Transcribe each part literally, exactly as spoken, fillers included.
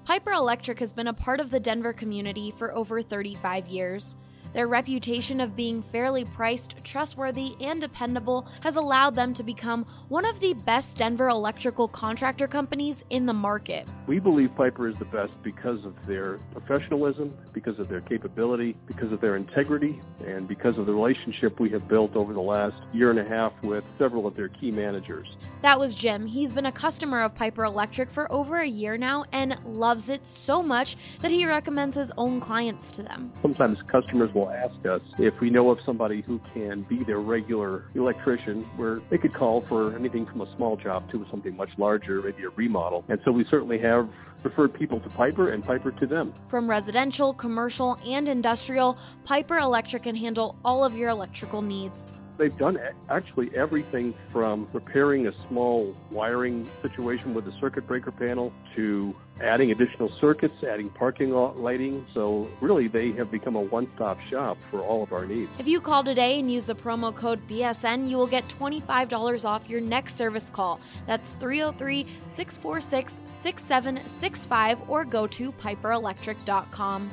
Piper Electric has been a part of the Denver community for over thirty-five years. Their reputation of being fairly priced, trustworthy, and dependable has allowed them to become one of the best Denver electrical contractor companies in the market. We believe Piper is the best because of their professionalism, because of their capability, because of their integrity, and because of the relationship we have built over the last year and a half with several of their key managers. That was Jim. He's been a customer of Piper Electric for over a year now and loves it so much that he recommends his own clients to them. Sometimes customers will ask us if we know of somebody who can be their regular electrician, where they could call for anything from a small job to something much larger, maybe a remodel. And so we certainly have referred people to Piper and Piper to them. From residential, commercial, and industrial, Piper Electric can handle all of your electrical needs. They've done actually everything from repairing a small wiring situation with a circuit breaker panel to adding additional circuits, adding parking lot lighting. So really, they have become a one-stop shop for all of our needs. If you call today and use the promo code B S N, you will get twenty-five dollars off your next service call. That's three oh three, six four six, six seven six five or go to piper electric dot com.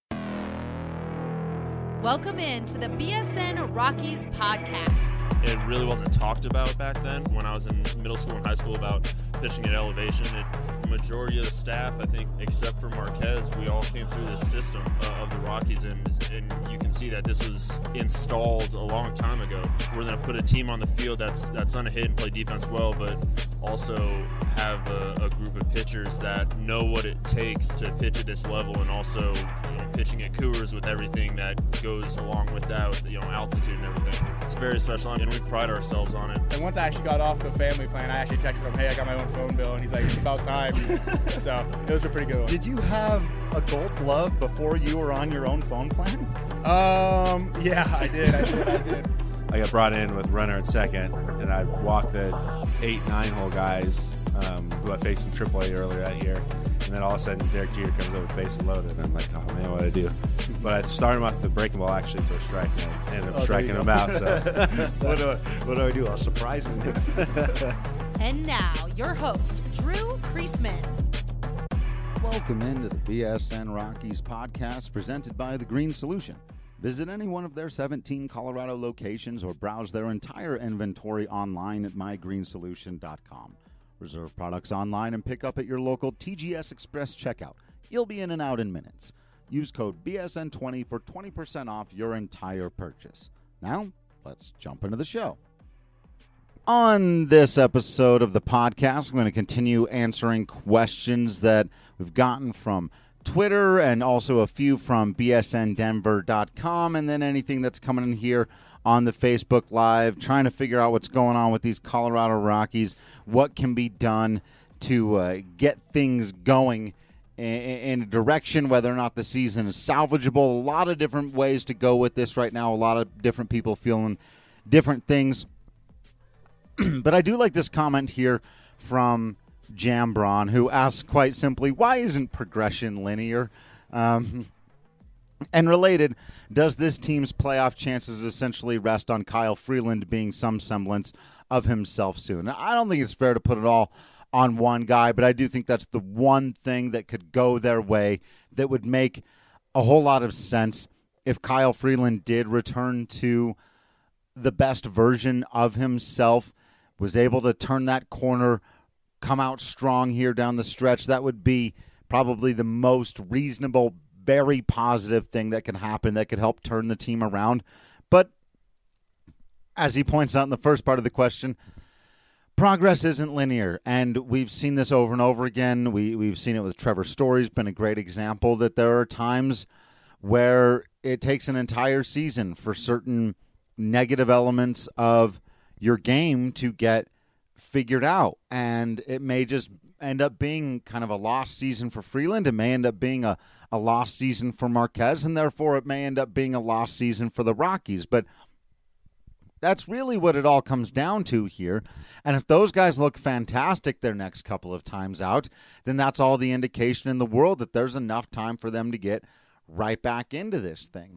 Welcome in to the B S N Rockies podcast. It really wasn't talked about back then when I was in middle school and high school about pitching at elevation. It, the majority of the staff, I think, except for Marquez, we all came through this system uh, of the Rockies, and, and you can see that this was installed a long time ago. We're going to put a team on the field that's that's going to hit and play defense well, but also have a, a group of pitchers that know what it takes to pitch at this level, and also, you know, pitching at Coors with everything that goes along with that, with, you know, altitude and everything. It's very special, and we pride ourselves on it. And once I actually got off the family plan, I actually texted him, hey, I got my own phone bill, and he's like, it's about time. So it was a pretty good one. Did you have a gold glove before you were on your own phone plan? Um, yeah, I did, I did, I did. I got brought in with runner at second, and I walked the eight, nine-hole guys um, who I faced in triple A earlier that year. And then all of a sudden, Derek Jeter comes over with bases loaded, and I'm like, oh, man, what do I do? But I started him off the breaking ball, actually, for a strike, and I ended up oh, striking him out. So what, do I, what do I do? I'll surprise him. And now, your host, Drew Priestman. Welcome into the B S N Rockies podcast presented by The Green Solution. Visit any one of their seventeen Colorado locations or browse their entire inventory online at my green solution dot com. Reserve products online and pick up at your local T G S Express checkout. You'll be in and out in minutes. Use code B S N twenty for twenty percent off your entire purchase. Now, let's jump into the show. On this episode of the podcast, I'm going to continue answering questions that we've gotten from Twitter and also a few from B S N denver dot com, and then anything that's coming in here on the Facebook Live, trying to figure out what's going on with these Colorado Rockies, what can be done to uh, get things going in, in a direction, whether or not the season is salvageable. A lot of different ways to go with this right now, a lot of different people feeling different things. But I do like this comment here from Jambron, who asks quite simply, why isn't progression linear? Um, and related, does this team's playoff chances essentially rest on Kyle Freeland being some semblance of himself soon? Now, I don't think it's fair to put it all on one guy, but I do think that's the one thing that could go their way that would make a whole lot of sense if Kyle Freeland did return to the best version of himself, was able to turn that corner, come out strong here down the stretch. That would be probably the most reasonable, very positive thing that can happen that could help turn the team around. But as he points out in the first part of the question, progress isn't linear, and we've seen this over and over again. We, we've seen it with Trevor Story's been a great example that there are times where it takes an entire season for certain negative elements of your game to get figured out, and it may just end up being kind of a lost season for Freeland. It may end up being a, a lost season for Marquez, and therefore it may end up being a lost season for the Rockies. But that's really what it all comes down to here. And if those guys look fantastic their next couple of times out, then that's all the indication in the world that there's enough time for them to get right back into this thing.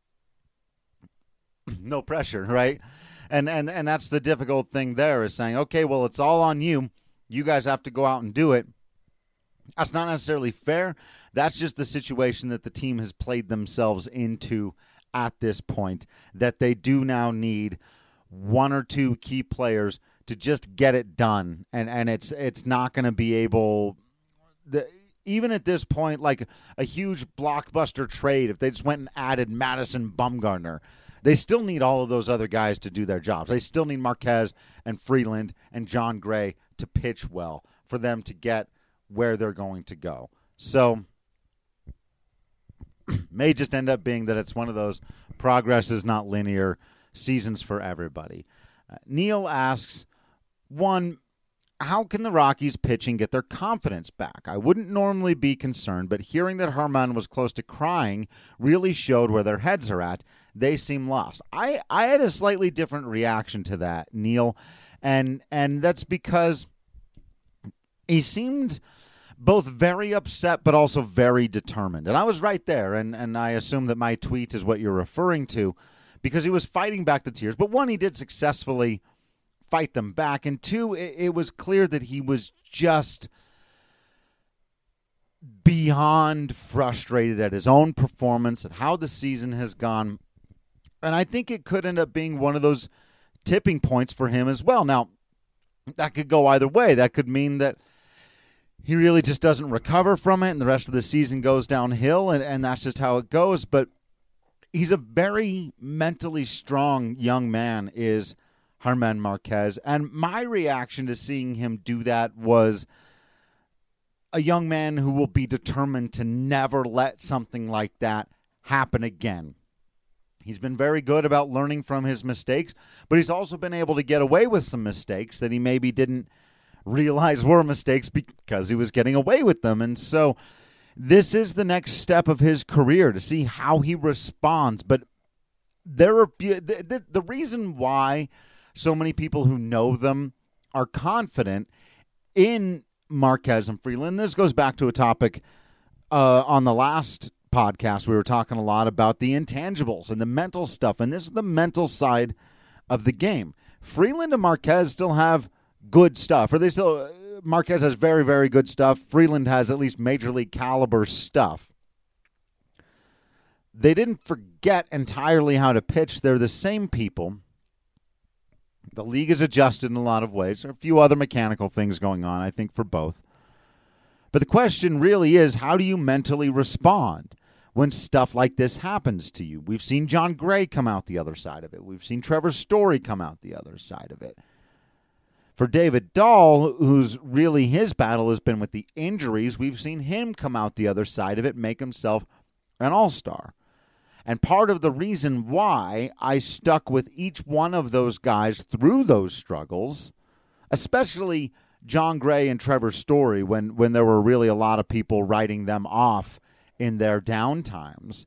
No pressure, right? And, and and that's the difficult thing there, is saying, okay, well, it's all on you. You guys have to go out and do it. That's not necessarily fair. That's just the situation that the team has played themselves into at this point, that they do now need one or two key players to just get it done. And, and it's it's not going to be able the, – even at this point, like a huge blockbuster trade, if they just went and added Madison Bumgarner, they still need all of those other guys to do their jobs. They still need Marquez and Freeland and John Gray to pitch well for them to get where they're going to go. So may just end up being that it's one of those progress is not linear seasons for everybody. Uh, Neil asks, one, how can the Rockies pitching get their confidence back? I wouldn't normally be concerned, but hearing that Herman was close to crying really showed where their heads are at. They seem lost. I, I had a slightly different reaction to that, Neil, and and that's because he seemed both very upset but also very determined. And I was right there, and, and I assume that my tweet is what you're referring to, because he was fighting back the tears. But one, he did successfully fight them back, and two, it, it was clear that he was just beyond frustrated at his own performance, at how the season has gone. And I think it could end up being one of those tipping points for him as well. Now, that could go either way. That could mean that he really just doesn't recover from it and the rest of the season goes downhill, and, and that's just how it goes. But he's a very mentally strong young man, is Germán Marquez. And my reaction to seeing him do that was a young man who will be determined to never let something like that happen again. He's been very good about learning from his mistakes, but he's also been able to get away with some mistakes that he maybe didn't realize were mistakes because he was getting away with them. And so this is the next step of his career, to see how he responds. But there are the, the, the reason why so many people who know them are confident in Marquez and Freeland. This goes back to a topic uh, on the last podcast. We were talking a lot about the intangibles and the mental stuff, and this is the mental side of the game. Freeland and Marquez still have good stuff, or they still Marquez has very, very good stuff. Freeland has at least major league caliber stuff. They didn't forget entirely how to pitch. They're the same people. The league has adjusted in a lot of ways. There are a few other mechanical things going on, I think, for both. But the question really is, how do you mentally respond when stuff like this happens to you? We've seen John Gray come out the other side of it. We've seen Trevor Story come out the other side of it. For David Dahl, who's really his battle has been with the injuries, we've seen him come out the other side of it, make himself an all-star. And part of the reason why I stuck with each one of those guys through those struggles, especially John Gray and Trevor Story, when, when there were really a lot of people writing them off in their downtimes,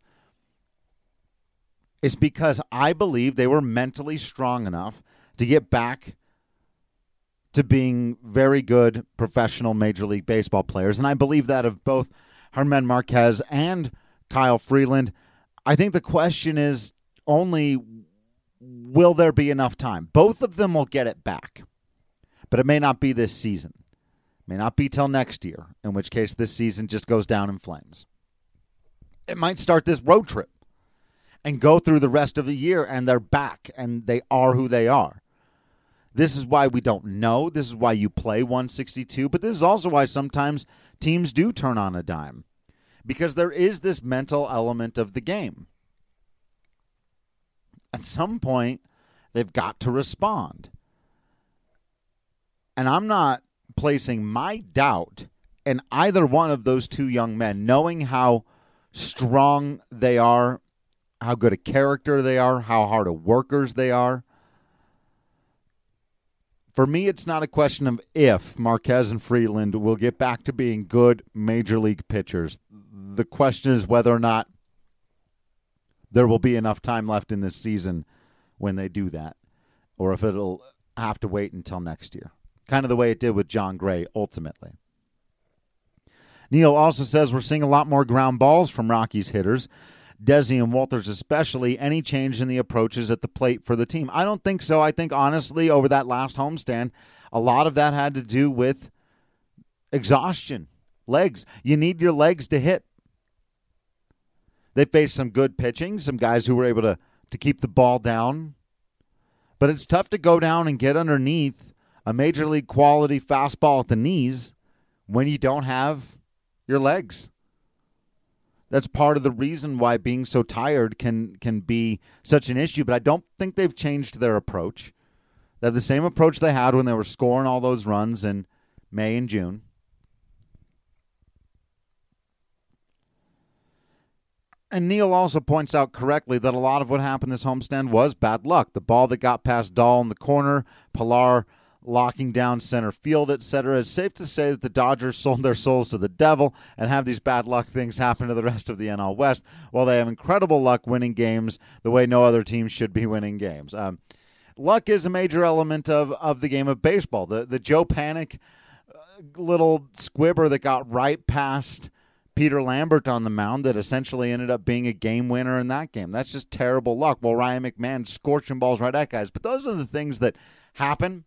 is because I believe they were mentally strong enough to get back to being very good professional Major League Baseball players. And I believe that of both Germán Marquez and Kyle Freeland. I think the question is only, will there be enough time? Both of them will get it back, but it may not be this season. It may not be till next year, in which case this season just goes down in flames. It might start this road trip and go through the rest of the year, and they're back, and they are who they are. This is why we don't know. This is why you play one sixty-two, but this is also why sometimes teams do turn on a dime, because there is this mental element of the game. At some point, they've got to respond. And I'm not placing my doubt in either one of those two young men, knowing how strong they are, how good a character they are, how hard of workers they are. For me, it's not a question of if Marquez and Freeland will get back to being good major league pitchers. The question is whether or not there will be enough time left in this season when they do that, or if it'll have to wait until next year. Kind of the way it did with John Gray, ultimately. Neil also says we're seeing a lot more ground balls from Rockies hitters, Desi and Walters especially. Any change in the approaches at the plate for the team? I don't think so. I think, honestly, over that last homestand, a lot of that had to do with exhaustion. legs. You need your legs to hit. They faced some good pitching, some guys who were able to, to keep the ball down. But it's tough to go down and get underneath a major league quality fastball at the knees when you don't have your legs. That's part of the reason why being so tired can can be such an issue. But I don't think they've changed their approach. They have the same approach they had when they were scoring all those runs in May and June. And Neil also points out correctly that a lot of what happened this homestand was bad luck. The ball that got past Dahl in the corner, Pilar locking down center field, et cetera. It's safe to say that the Dodgers sold their souls to the devil and have these bad luck things happen to the rest of the N L West, while they have incredible luck winning games the way no other team should be winning games. Um, luck is a major element of, of the game of baseball. The, the Joe Panik uh, little squibber that got right past Peter Lambert on the mound that essentially ended up being a game winner in that game. That's just terrible luck. Well, Ryan McMahon scorching balls right at guys. But those are the things that happen.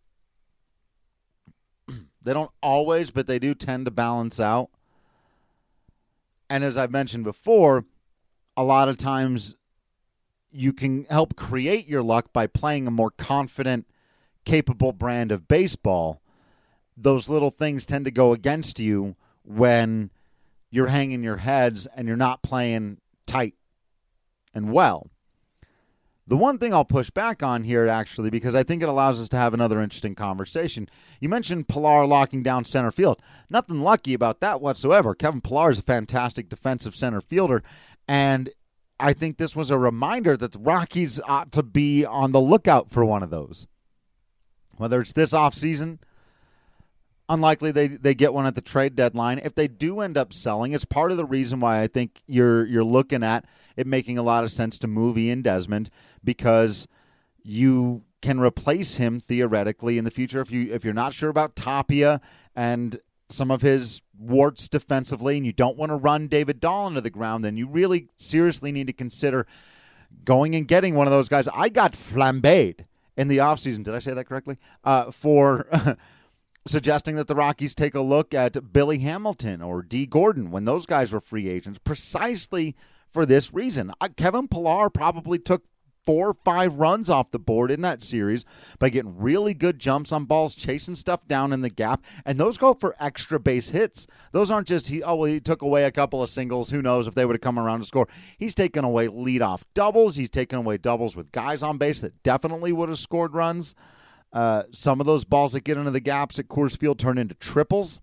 They don't always, but they do tend to balance out. And as I've mentioned before, a lot of times you can help create your luck by playing a more confident, capable brand of baseball. Those little things tend to go against you when you're hanging your heads and you're not playing tight and well. The one thing I'll push back on here, actually, because I think it allows us to have another interesting conversation. You mentioned Pilar locking down center field. Nothing lucky about that whatsoever. Kevin Pilar is a fantastic defensive center fielder, and I think this was a reminder that the Rockies ought to be on the lookout for one of those. Whether it's this offseason, unlikely they, they get one at the trade deadline. If they do end up selling, it's part of the reason why I think you're you're looking at it making a lot of sense to move Ian Desmond, because you can replace him theoretically in the future if you if you're not sure about Tapia and some of his warts defensively, and you don't want to run David Dahl into the ground, then you really seriously need to consider going and getting one of those guys. I got flambéed in the offseason. Did I say that correctly? Uh, for suggesting that the Rockies take a look at Billy Hamilton or Dee Gordon when those guys were free agents, precisely for this reason. Uh, Kevin Pilar probably took four or five runs off the board in that series by getting really good jumps on balls, chasing stuff down in the gap, and those go for extra base hits. Those aren't just, he, oh, well, he took away a couple of singles. Who knows if they would have come around to score. He's taken away leadoff doubles. He's taken away doubles with guys on base that definitely would have scored runs. Uh, some of those balls that get into the gaps at Coors Field turn into triples.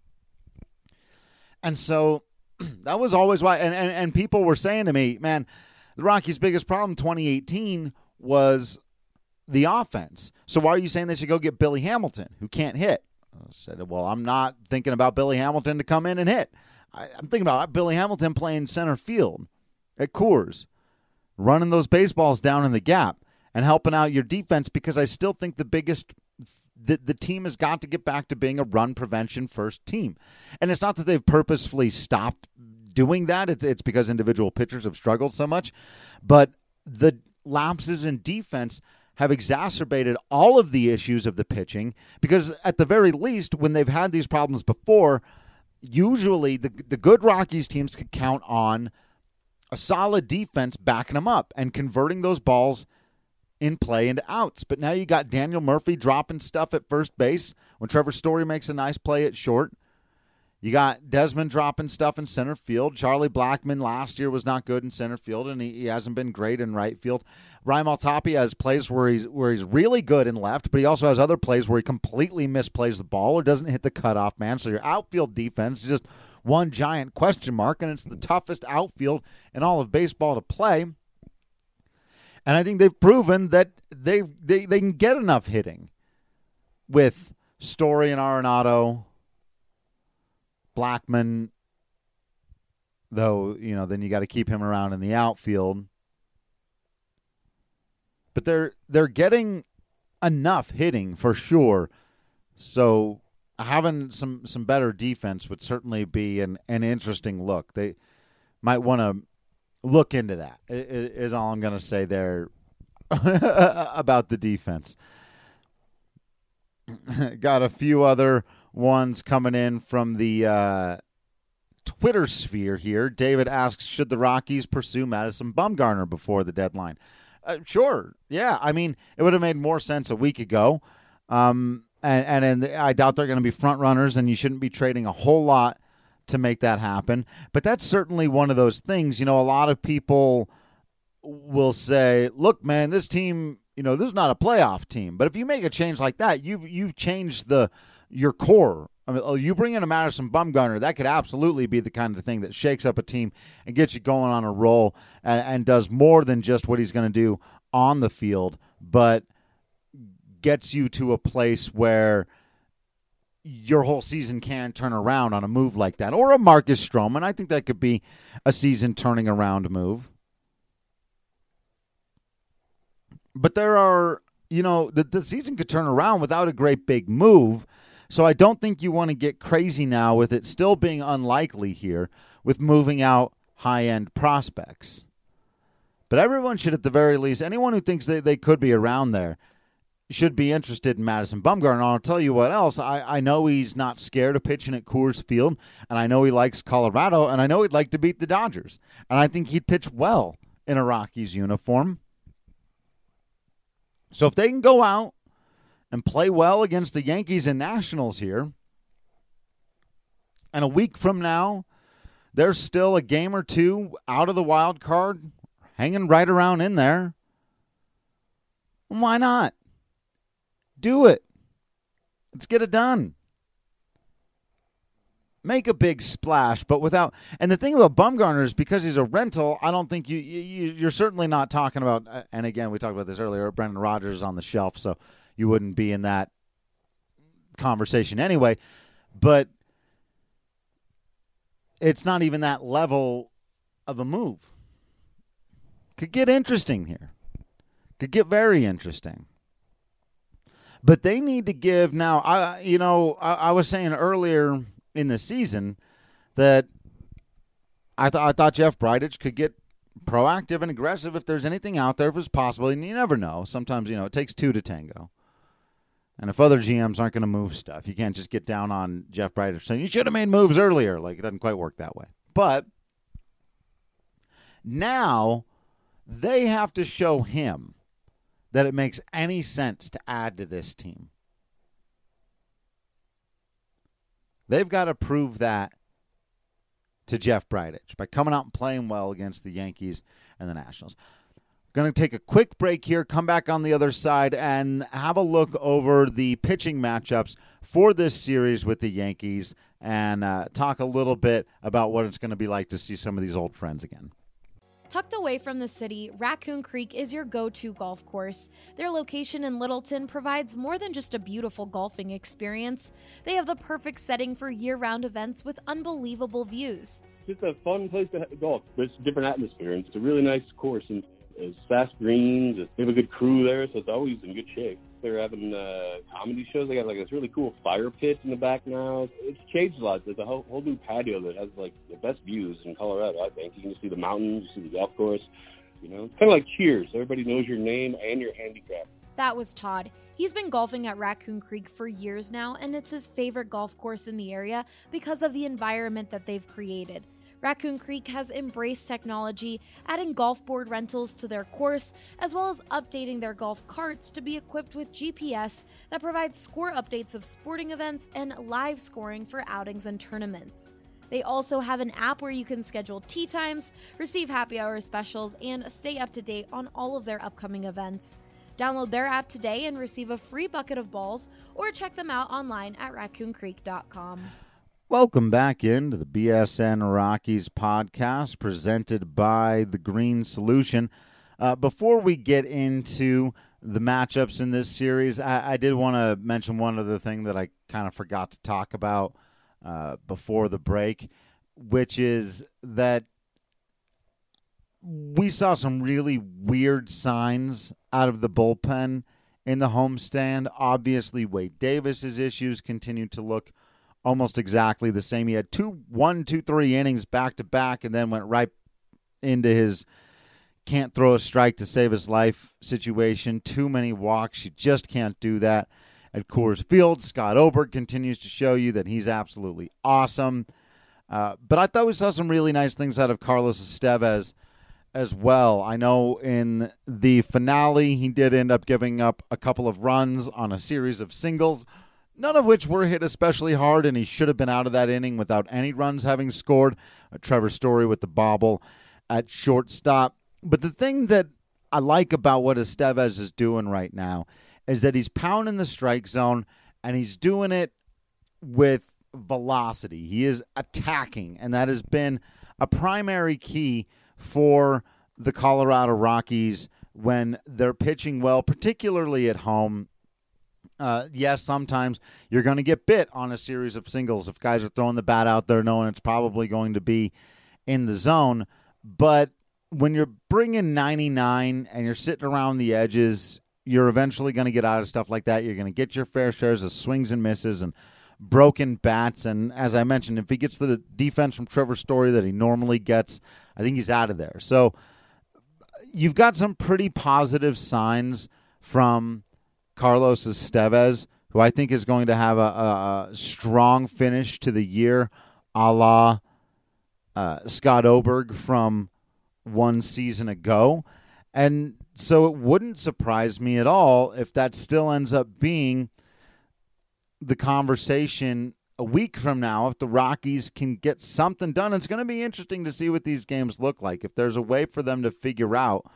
And so that was always why, and, and, and people were saying to me, man, the Rockies' biggest problem in twenty eighteen was the offense. So why are you saying they should go get Billy Hamilton, who can't hit? I said, well, I'm not thinking about Billy Hamilton to come in and hit. I, I'm thinking about Billy Hamilton playing center field at Coors, running those baseballs down in the gap and helping out your defense, because I still think the biggest the, the team has got to get back to being a run prevention first team. And it's not that they've purposefully stopped doing that. It's, it's because individual pitchers have struggled so much. But the lapses in defense have exacerbated all of the issues of the pitching, because at the very least, when they've had these problems before, usually the, the good Rockies teams could count on a solid defense backing them up and converting those balls in play into outs. But now you got Daniel Murphy dropping stuff at first base when Trevor Story makes a nice play at short. You got Desmond dropping stuff in center field. Charlie Blackmon last year was not good in center field, and he, he hasn't been great in right field. Raimel Tapia has plays where he's where he's really good in left, but he also has other plays where he completely misplays the ball or doesn't hit the cutoff man. So your outfield defense is just one giant question mark, and it's the toughest outfield in all of baseball to play. And I think they've proven that they they, they can get enough hitting with Story and Arenado, Blackmon, though, you know, then you got to keep him around in the outfield. But they're they're getting enough hitting for sure. So having some, some better defense would certainly be an, an interesting look. They might want to look into that, is all I'm going to say there about the defense. Got a few other ones coming in from the uh, Twitter sphere here. David asks, should the Rockies pursue Madison Bumgarner before the deadline? Uh, sure. Yeah. I mean, it would have made more sense a week ago. Um, and, and, and I doubt they're going to be front runners, and you shouldn't be trading a whole lot to make that happen. But that's certainly one of those things. You know, a lot of people will say, look, man, this team, you know, this is not a playoff team. But if you make a change like that, you've, you've changed the your core. I mean, you bring in a Madison Bumgarner, that could absolutely be the kind of thing that shakes up a team and gets you going on a roll and, and does more than just what he's going to do on the field, but gets you to a place where your whole season can turn around on a move like that. Or a Marcus Stroman. I think that could be a season turning around move. But there are, you know, the, the season could turn around without a great big move. So I don't think you want to get crazy now with it still being unlikely here with moving out high-end prospects. But everyone should, at the very least, anyone who thinks they, they could be around there should be interested in Madison Bumgarner. And I'll tell you what else. I, I know he's not scared of pitching at Coors Field, and I know he likes Colorado, and I know he'd like to beat the Dodgers. And I think he'd pitch well in a Rockies uniform. So if they can go out and play well against the Yankees and Nationals here, and a week from now, there's still a game or two out of the wild card, hanging right around in there, why not? Do it. Let's get it done. Make a big splash, but without. And the thing about Bumgarner is because he's a rental, I don't think you, you you're certainly not talking about. And again, we talked about this earlier. Brendan Rodgers is on the shelf, so you wouldn't be in that conversation anyway. But it's not even that level of a move. Could get interesting here. Could get very interesting. But they need to give now. I you know I, I was saying earlier in the season that I thought I thought Jeff Bridich could get proactive and aggressive if there's anything out there, if it's possible. And you never know. Sometimes you know it takes two to tango. And if other G Ms aren't going to move stuff, you can't just get down on Jeff Bridich saying you should have made moves earlier. Like it doesn't quite work that way. But now they have to show him that it makes any sense to add to this team. They've got to prove that to Jeff Bridich by coming out and playing well against the Yankees and the Nationals. Going to take a quick break here, come back on the other side, and have a look over the pitching matchups for this series with the Yankees and uh, talk a little bit about what it's going to be like to see some of these old friends again. Tucked away from the city, Raccoon Creek is your go-to golf course. Their location in Littleton provides more than just a beautiful golfing experience. They have the perfect setting for year-round events with unbelievable views. It's just a fun place to golf. It's a different atmosphere, and it's a really nice course, and it's fast greens. They have a good crew there, so it's always in good shape. They're having uh, comedy shows. They got like this really cool fire pit in the back now. It's changed a lot. There's a whole, whole new patio that has like the best views in Colorado, I think. You can see the mountains, you see the golf course. You know, it's kind of like Cheers. Everybody knows your name and your handicap. That was Todd. He's been golfing at Raccoon Creek for years now, and it's his favorite golf course in the area because of the environment that they've created. Raccoon Creek has embraced technology, adding golf board rentals to their course, as well as updating their golf carts to be equipped with G P S that provides score updates of sporting events and live scoring for outings and tournaments. They also have an app where you can schedule tee times, receive happy hour specials, and stay up to date on all of their upcoming events. Download their app today and receive a free bucket of balls, or check them out online at raccoon creek dot com. Welcome back into the B S N Rockies podcast presented by The Green Solution. Uh, before we get into the matchups in this series, I, I did want to mention one other thing that I kind of forgot to talk about uh, before the break, which is that we saw some really weird signs out of the bullpen in the homestand. Obviously, Wade Davis's issues continue to look almost exactly the same. He had two, one, two, three innings back to back, and then went right into his can't throw a strike to save his life situation. Too many walks. You just can't do that at Coors Field. Scott Oberg continues to show you that he's absolutely awesome. Uh, but I thought we saw some really nice things out of Carlos Estevez as well. I know in the finale, he did end up giving up a couple of runs on a series of singles, none of which were hit especially hard, and he should have been out of that inning without any runs having scored. Uh, Trevor Story with the bobble at shortstop. But the thing that I like about what Estevez is doing right now is that he's pounding the strike zone, and he's doing it with velocity. He is attacking, and that has been a primary key for the Colorado Rockies when they're pitching well, particularly at home. Uh, yes, sometimes you're going to get bit on a series of singles if guys are throwing the bat out there knowing it's probably going to be in the zone. But when you're bringing ninety-nine and you're sitting around the edges, you're eventually going to get out of stuff like that. You're going to get your fair shares of swings and misses and broken bats, and as I mentioned, if he gets the defense from Trevor Story that he normally gets, I think he's out of there. So you've got some pretty positive signs from Carlos Estevez, who I think is going to have a, a strong finish to the year, a la uh, Scott Oberg from one season ago. And so it wouldn't surprise me at all if that still ends up being the conversation a week from now if the Rockies can get something done. It's going to be interesting to see what these games look like. If there's a way for them to figure out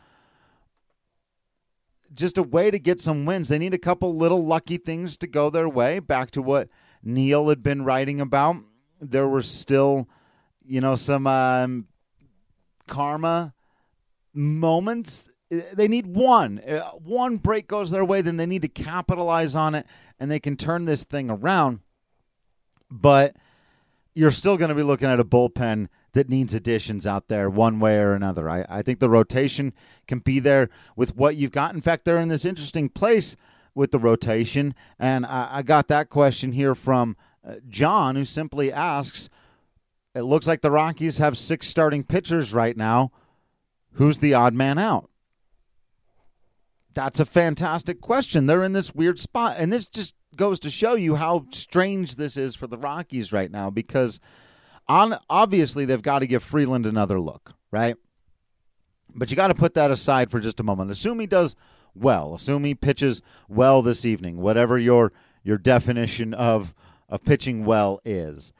just a way to get some wins, they need a couple little lucky things to go their way. Back to what Neil had been writing about, there were still, you know, some um, karma moments. They need one. One break goes their way, then they need to capitalize on it, and they can turn this thing around. But you're still going to be looking at a bullpen that needs additions out there one way or another. I, I think the rotation can be there with what you've got. In fact, they're in this interesting place with the rotation, and I, I got that question here from uh, John, who simply asks, it looks like the Rockies have six starting pitchers right now. Who's the odd man out? That's a fantastic question. They're in this weird spot, and this just goes to show you how strange this is for the Rockies right now, because on obviously they've got to give Freeland another look, right? But you got to put that aside for just a moment. Assume he does well. Assume he pitches well this evening, whatever your your definition of, of pitching well is.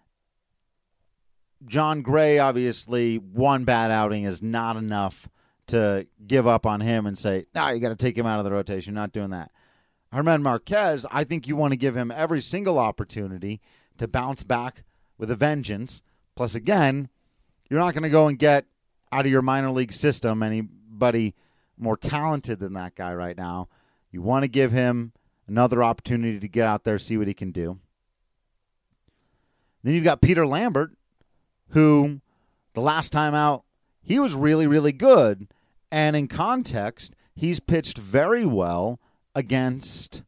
John Gray, obviously, one bad outing is not enough to give up on him and say, no, you got to take him out of the rotation. Not doing that. German Marquez, I think you want to give him every single opportunity to bounce back with a vengeance. Plus, again, you're not going to go and get out of your minor league system anybody more talented than that guy right now. You want to give him another opportunity to get out there, see what he can do. Then you've got Peter Lambert, who the last time out, he was really, really good. And in context, he's pitched very well against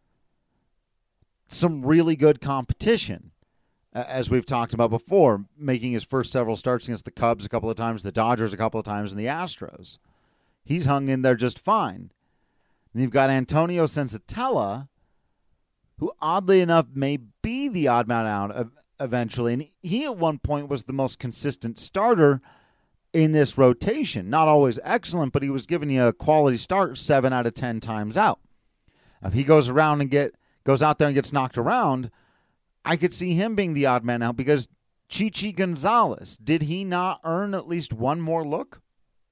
some really good competition, as we've talked about before, making his first several starts against the Cubs a couple of times, the Dodgers a couple of times, and the Astros. He's hung in there just fine. And you've got Antonio Sensatella, who oddly enough may be the odd man out eventually. And he at one point was the most consistent starter in this rotation. Not always excellent, but he was giving you a quality start seven out of ten times out. If he goes around and get goes out there and gets knocked around, I could see him being the odd man out, because Chichi Gonzalez, did he not earn at least one more look?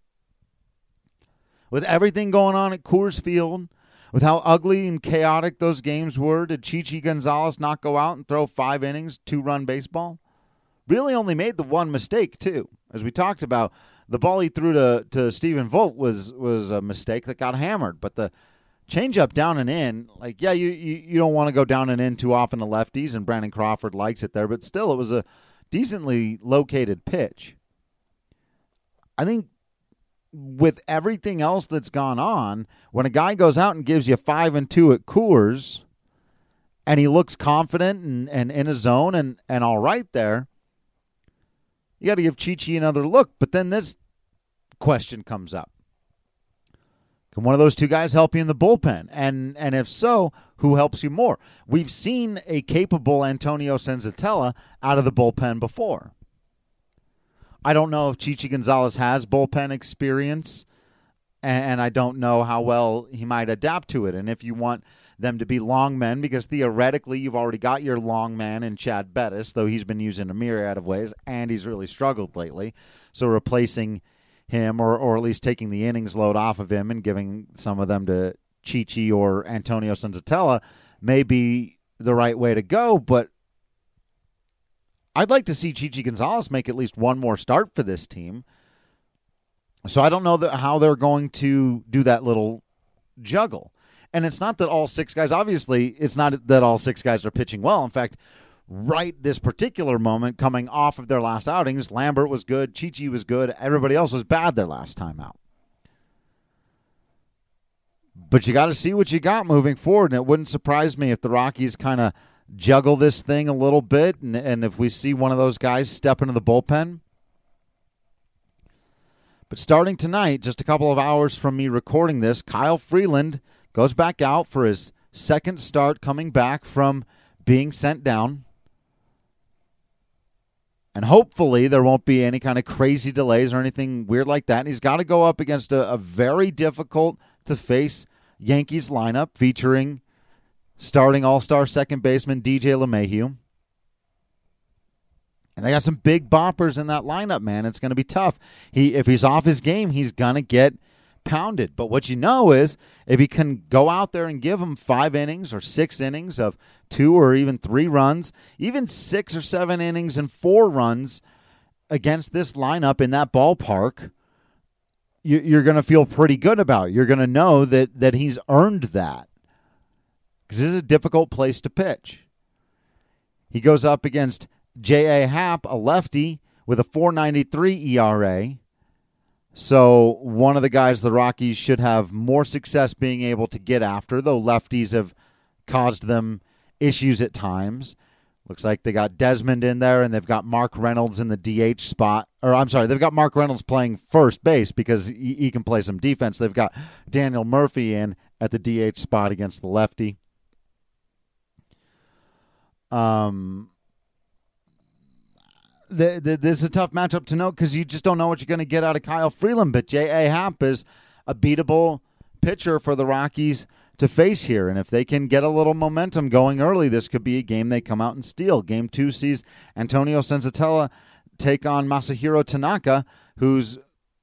With everything going on at Coors Field, with how ugly and chaotic those games were, did Chichi Gonzalez not go out and throw five innings, two-run baseball? Really only made the one mistake, too. As we talked about, the ball he threw to, to Stephen Vogt was was a mistake that got hammered. But the changeup down and in, like, yeah, you, you, you don't want to go down and in too often to lefties, and Brandon Crawford likes it there. But still, it was a decently located pitch. I think with everything else that's gone on, when a guy goes out and gives you five and two at Coors, and he looks confident and, and in a zone and, and all right there, you got to give Chichi another look. But then this question comes up. Can one of those two guys help you in the bullpen? And and if so, who helps you more? We've seen a capable Antonio Senzatella out of the bullpen before. I don't know if Chichi Gonzalez has bullpen experience, and I don't know how well he might adapt to it. And if you want them to be long men, because theoretically you've already got your long man in Chad Bettis, though he's been used in a myriad of ways, and he's really struggled lately. So replacing him, or, or at least taking the innings load off of him and giving some of them to Chichi or Antonio Senzatella may be the right way to go, but I'd like to see Chichi Gonzalez make at least one more start for this team. So I don't know that how they're going to do that little juggle. And it's not that all six guys, obviously, it's not that all six guys are pitching well. In fact, right this particular moment, coming off of their last outings, Lambert was good, Chichi was good, everybody else was bad their last time out. But you got to see what you got moving forward, and it wouldn't surprise me if the Rockies kind of juggle this thing a little bit, and, and if we see one of those guys step into the bullpen. But starting tonight, just a couple of hours from me recording this, Kyle Freeland goes back out for his second start coming back from being sent down. And hopefully there won't be any kind of crazy delays or anything weird like that. And he's got to go up against a, a very difficult-to-face Yankees lineup featuring starting all-star second baseman D J LeMahieu. And they got some big boppers in that lineup, man. It's going to be tough. He, if he's off his game, he's going to get pounded. But what you know is if he can go out there and give them five innings or six innings of two or even three runs, even six or seven innings and four runs against this lineup in that ballpark, you, you're going to feel pretty good about it. You're going to know that, that he's earned that. Because this is a difficult place to pitch. He goes up against J A. Happ, a lefty, with a four ninety-three E R A. So one of the guys the Rockies should have more success being able to get after, though lefties have caused them issues at times. Looks like they got Desmond in there, and they've got Mark Reynolds in the D H spot. Or I'm sorry, they've got Mark Reynolds playing first base because he, he can play some defense. They've got Daniel Murphy in at the D H spot against the lefty. Um, the, the, this is a tough matchup to know because you just don't know what you're going to get out of Kyle Freeland. But J A. Happ is a beatable pitcher for the Rockies to face here. And if they can get a little momentum going early, this could be a game they come out and steal. Game two sees Antonio Senzatella take on Masahiro Tanaka, who's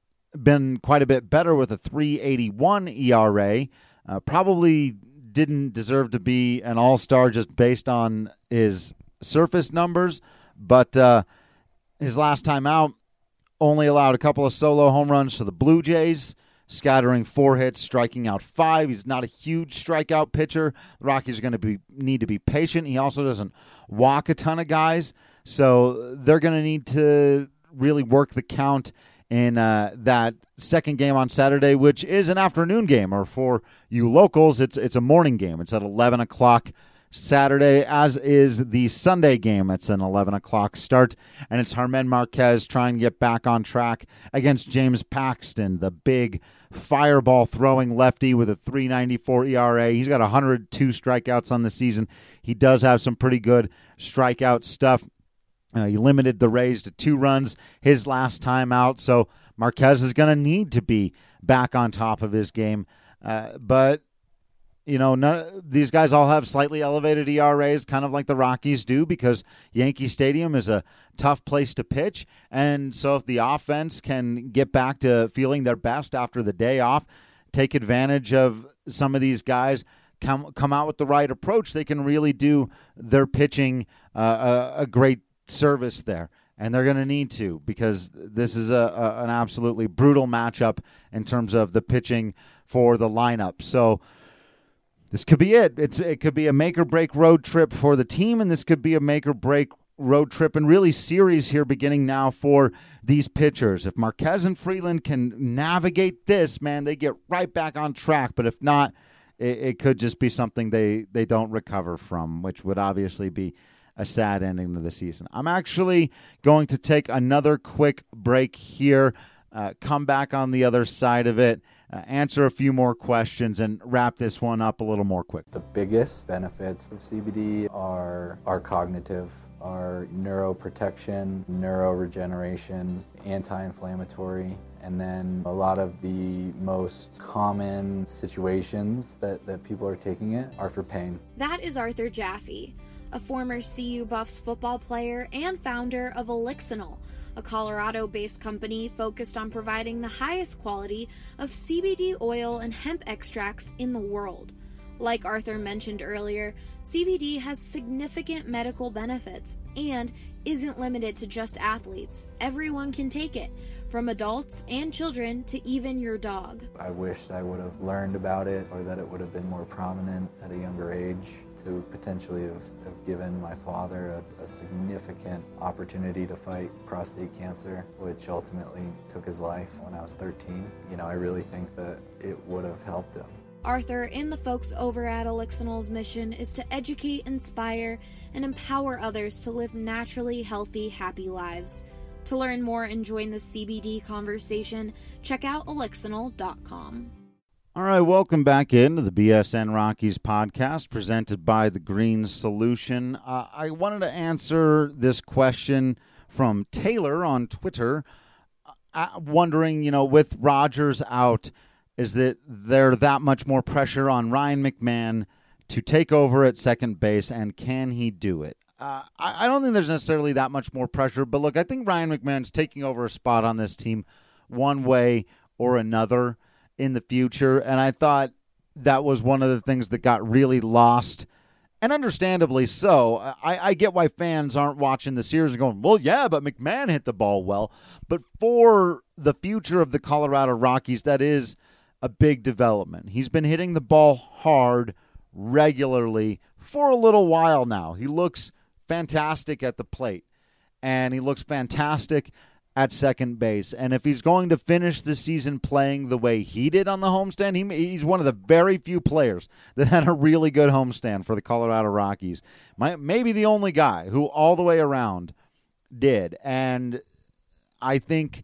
been quite a bit better with a three eighty-one E R A. Uh, probably didn't deserve to be an all-star just based on his surface numbers, but uh, his last time out only allowed a couple of solo home runs to the Blue Jays, scattering four hits, striking out five. He's not a huge strikeout pitcher. The Rockies are going to be need to be patient. He also doesn't walk a ton of guys, so they're going to need to really work the count in uh, that second game on Saturday, which is an afternoon game, or for you locals, it's it's a morning game. It's at eleven o'clock Saturday, as is the Sunday game. It's an eleven o'clock start, and it's Germán Marquez trying to get back on track against James Paxton, the big fireball-throwing lefty with a three ninety-four E R A. He's got one hundred two strikeouts on the season. He does have some pretty good strikeout stuff. Uh, he limited the Rays to two runs his last time out, so Marquez is going to need to be back on top of his game. Uh, but, you know, none, these guys all have slightly elevated E R As, kind of like the Rockies do, because Yankee Stadium is a tough place to pitch. And so if the offense can get back to feeling their best after the day off, take advantage of some of these guys, come, come out with the right approach, they can really do their pitching uh, a, a great service there, and they're going to need to, because this is a, a an absolutely brutal matchup in terms of the pitching for the lineup. So this could be it. It's it could be a make or break road trip for the team, and this could be a make or break road trip and really series here beginning now for these pitchers. If Marquez and Freeland can navigate this, man, they get right back on track. But if not, it, it could just be something they they don't recover from, which would obviously be a sad ending to the season. I'm actually going to take another quick break here, uh, come back on the other side of it, uh, answer a few more questions and wrap this one up a little more quick. The biggest benefits of C B D are, are cognitive, are neuroprotection, neuroregeneration, anti-inflammatory, and then a lot of the most common situations that, that people are taking it are for pain. That is Arthur Jaffe, a former C U Buffs football player and founder of Elixinol, a Colorado-based company focused on providing the highest quality of C B D oil and hemp extracts in the world. Like Arthur mentioned earlier, C B D has significant medical benefits and isn't limited to just athletes. Everyone can take it, from adults and children to even your dog. I wished I would have learned about it, or that it would have been more prominent at a younger age to potentially have, have given my father a, a significant opportunity to fight prostate cancer, which ultimately took his life when I was thirteen. You know, I really think that it would have helped him. Arthur and the folks over at Elixinol's mission is to educate, inspire, and empower others to live naturally healthy, happy lives. To learn more and join the C B D conversation, check out elixinol dot com. All right, welcome back into the B S N Rockies podcast presented by The Green Solution. Uh, I wanted to answer this question from Taylor on Twitter, uh, wondering, you know, with Rodgers out, is that there that much more pressure on Ryan McMahon to take over at second base, and can he do it? Uh, I, I don't think there's necessarily that much more pressure, but look, I think Ryan McMahon's taking over a spot on this team one way or another in the future, and I thought that was one of the things that got really lost, and understandably so. I, I get why fans aren't watching the series and going, well, yeah, but McMahon hit the ball well, but for the future of the Colorado Rockies, that is a big development. He's been hitting the ball hard regularly for a little while now. He looks fantastic at the plate, and he looks fantastic at second base. And if he's going to finish the season playing the way he did on the homestand, he, he's one of the very few players that had a really good homestand for the Colorado Rockies. My, maybe the only guy who all the way around did. And I think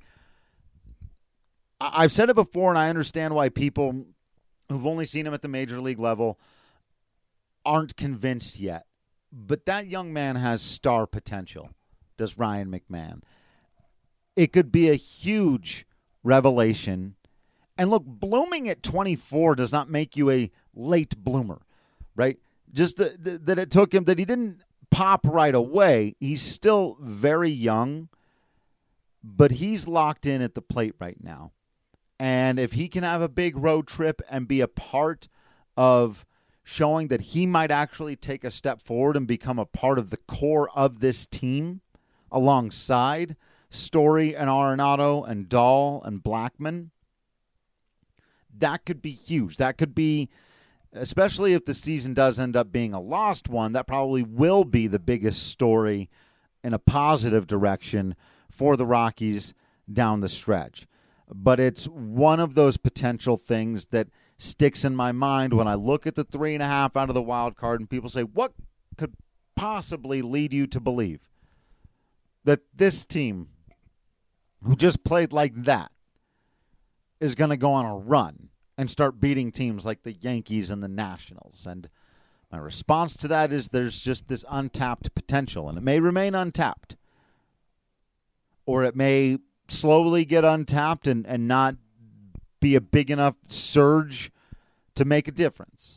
I've said it before, and I understand why people who've only seen him at the major league level aren't convinced yet. But that young man has star potential, does Ryan McMahon. It could be a huge revelation. And look, blooming at twenty-four does not make you a late bloomer, right? Just the, the, that it took him, that he didn't pop right away. He's still very young, but he's locked in at the plate right now. And if he can have a big road trip and be a part of showing that he might actually take a step forward and become a part of the core of this team alongside Story and Arenado and Dahl and Blackman, that could be huge. That could be, especially if the season does end up being a lost one, that probably will be the biggest story in a positive direction for the Rockies down the stretch. But it's one of those potential things that sticks in my mind when I look at the three and a half out of the wild card and people say, what could possibly lead you to believe that this team, who just played like that, is going to go on a run and start beating teams like the Yankees and the Nationals? And my response to that is there's just this untapped potential, and it may remain untapped, or it may slowly get untapped and, and not be a big enough surge to make a difference.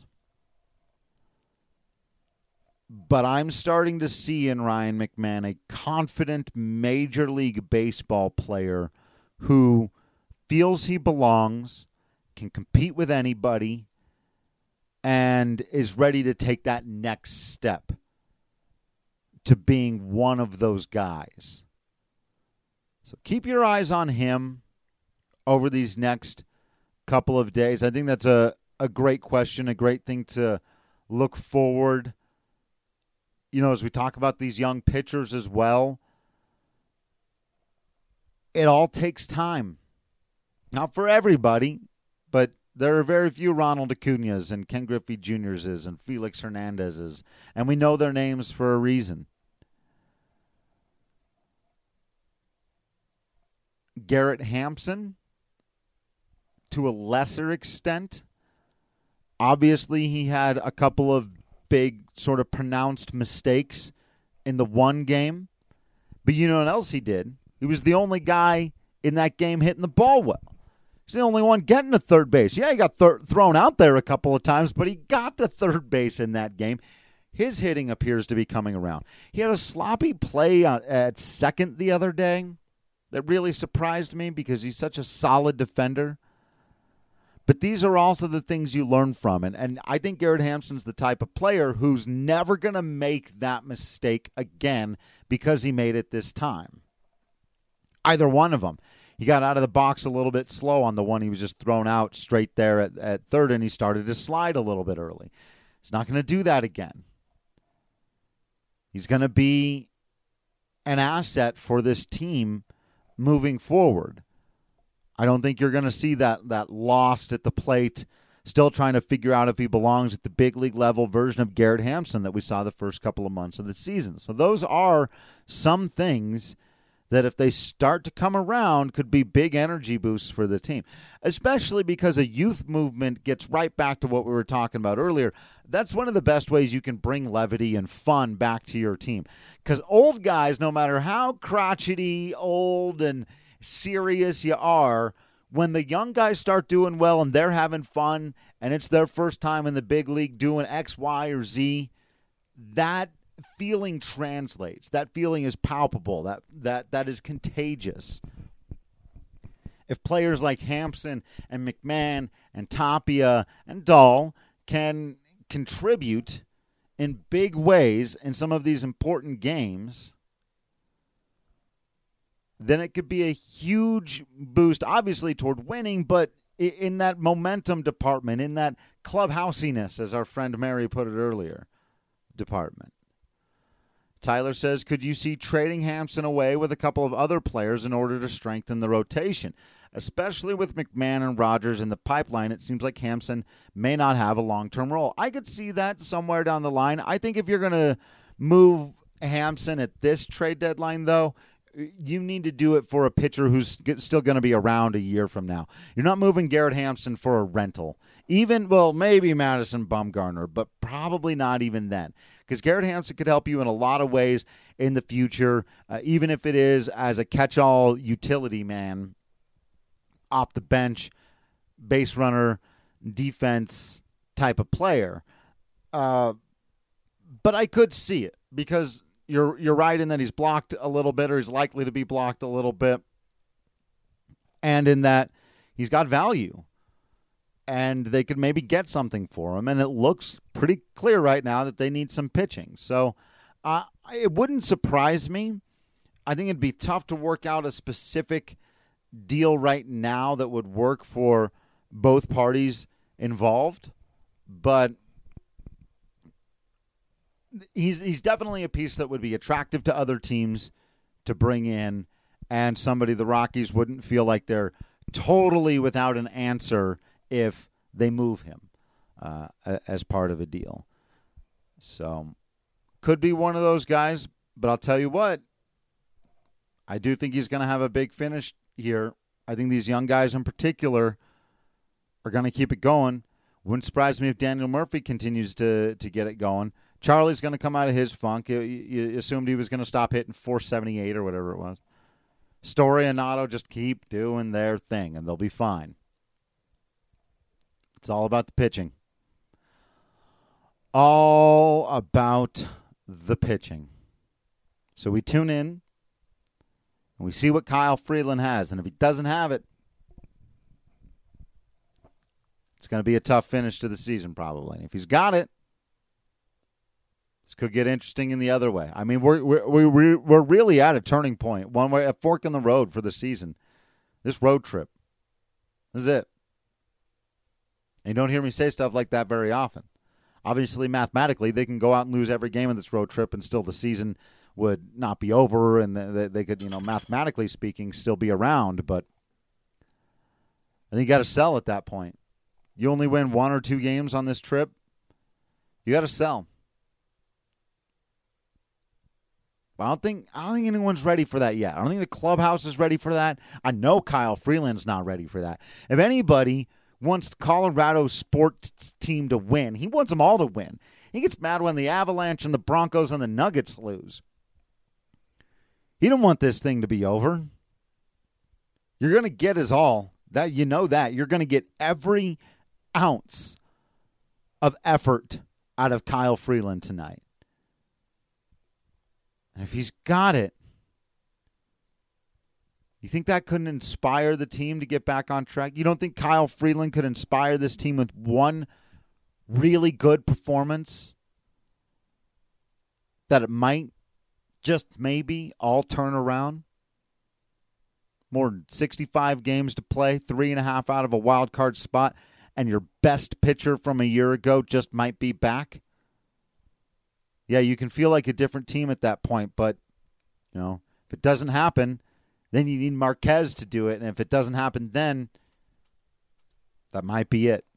But I'm starting to see in Ryan McMahon a confident Major League Baseball player who feels he belongs, can compete with anybody, and is ready to take that next step to being one of those guys. So keep your eyes on him over these next couple of days. I think that's a, a great question, a great thing to look forward. You know, as we talk about these young pitchers as well, it all takes time. Not for everybody, but there are very few Ronald Acuñas and Ken Griffey Juniors and Felix Hernandez's, and we know their names for a reason. Garrett Hampson, to a lesser extent. Obviously, he had a couple of big sort of pronounced mistakes in the one game. But you know what else he did? He was the only guy in that game hitting the ball well. He's the only one getting to third base. Yeah, he got th- thrown out there a couple of times, but he got to third base in that game. His hitting appears to be coming around. He had a sloppy play at second the other day that really surprised me because he's such a solid defender. But these are also the things you learn from. And, and I think Garrett Hampson's the type of player who's never going to make that mistake again because he made it this time. Either one of them. He got out of the box a little bit slow on the one he was just thrown out straight there at, at third, and he started to slide a little bit early. He's not going to do that again. He's going to be an asset for this team moving forward. I don't think you're going to see that that lost at the plate, still trying to figure out if he belongs at the big league level version of Garrett Hampson that we saw the first couple of months of the season. So those are some things that if they start to come around could be big energy boosts for the team, especially because a youth movement gets right back to what we were talking about earlier. That's one of the best ways you can bring levity and fun back to your team, because old guys, no matter how crotchety, old, and serious you are, when the young guys start doing well and they're having fun and it's their first time in the big league doing X, Y, or Z, that feeling translates. That feeling is palpable. That that that is contagious. If players like Hampson and McMahon and Tapia and Dahl can contribute in big ways in some of these important games, then it could be a huge boost, obviously, toward winning, but in that momentum department, in that clubhousiness, as our friend Mary put it earlier, department. Tyler says, could you see trading Hampson away with a couple of other players in order to strengthen the rotation? Especially with McMahon and Rogers in the pipeline, it seems like Hampson may not have a long-term role. I could see that somewhere down the line. I think if you're going to move Hampson at this trade deadline, though, you need to do it for a pitcher who's still going to be around a year from now. You're not moving Garrett Hampson for a rental. Even, well, maybe Madison Bumgarner, but probably not even then. Because Garrett Hampson could help you in a lot of ways in the future, uh, even if it is as a catch-all utility man off the bench, base runner, defense type of player. Uh, but I could see it because You're you're right in that he's blocked a little bit, or he's likely to be blocked a little bit, and in that he's got value, and they could maybe get something for him, and it looks pretty clear right now that they need some pitching. So uh, it wouldn't surprise me. I think it'd be tough to work out a specific deal right now that would work for both parties involved, but He's he's definitely a piece that would be attractive to other teams to bring in, and somebody the Rockies wouldn't feel like they're totally without an answer if they move him uh, as part of a deal. So could be one of those guys, but I'll tell you what, I do think he's going to have a big finish here. I think these young guys in particular are going to keep it going. Wouldn't surprise me if Daniel Murphy continues to, to get it going. Charlie's going to come out of his funk. You, you assumed he was going to stop hitting four seventy-eight or whatever it was. Story and Otto just keep doing their thing, and they'll be fine. It's all about the pitching. All about the pitching. So we tune in, and we see what Kyle Freeland has. And if he doesn't have it, it's going to be a tough finish to the season probably. And if he's got it, this could get interesting in the other way. I mean, we're we're we're we're really at a turning point, one way, a fork in the road for the season. This road trip, this is it. And you don't hear me say stuff like that very often. Obviously, mathematically, they can go out and lose every game of this road trip, and still the season would not be over, and they, they could, you know, mathematically speaking, still be around. But I think you got to sell at that point. You only win one or two games on this trip, you got to sell. I don't think I don't think anyone's ready for that yet. I don't think the clubhouse is ready for that. I know Kyle Freeland's not ready for that. If anybody wants Colorado's sports team to win, he wants them all to win. He gets mad when the Avalanche and the Broncos and the Nuggets lose. He don't want this thing to be over. You're going to get his all. That you know that. You're going to get every ounce of effort out of Kyle Freeland tonight. And if he's got it, you think that couldn't inspire the team to get back on track? You don't think Kyle Freeland could inspire this team with one really good performance? That it might just maybe all turn around? More than sixty-five games to play, three and a half out of a wild card spot, and your best pitcher from a year ago just might be back? Yeah, you can feel like a different team at that point, but, you know, if it doesn't happen, then you need Marquez to do it, and if it doesn't happen then, that might be it.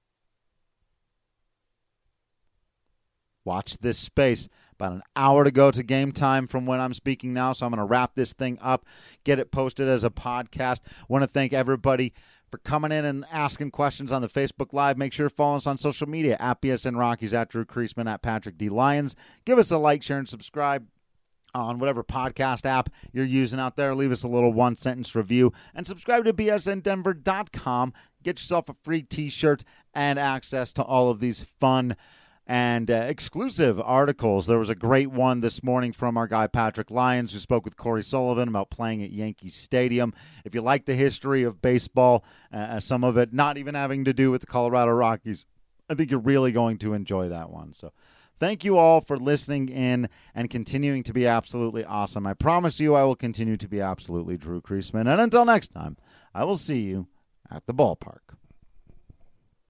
Watch this space. About an hour to go to game time from when I'm speaking now, so I'm going to wrap this thing up, get it posted as a podcast. Want to thank everybody for coming in and asking questions on the Facebook Live. Make sure to follow us on social media, at B S N Rockies, at Drew Creasman, at Patrick D. Lyons. Give us a like, share, and subscribe on whatever podcast app you're using out there. Leave us a little one-sentence review. And subscribe to B S N Denver dot com. Get yourself a free T-shirt and access to all of these fun and uh, exclusive articles. There was a great one this morning from our guy Patrick Lyons, who spoke with Corey Sullivan about playing at Yankee Stadium. If you like the history of baseball, uh, some of it not even having to do with the Colorado Rockies, I think you're really going to enjoy that one. So thank you all for listening in and continuing to be absolutely awesome. I promise you I will continue to be absolutely Drew Creasman. And until next time, I will see you at the ballpark.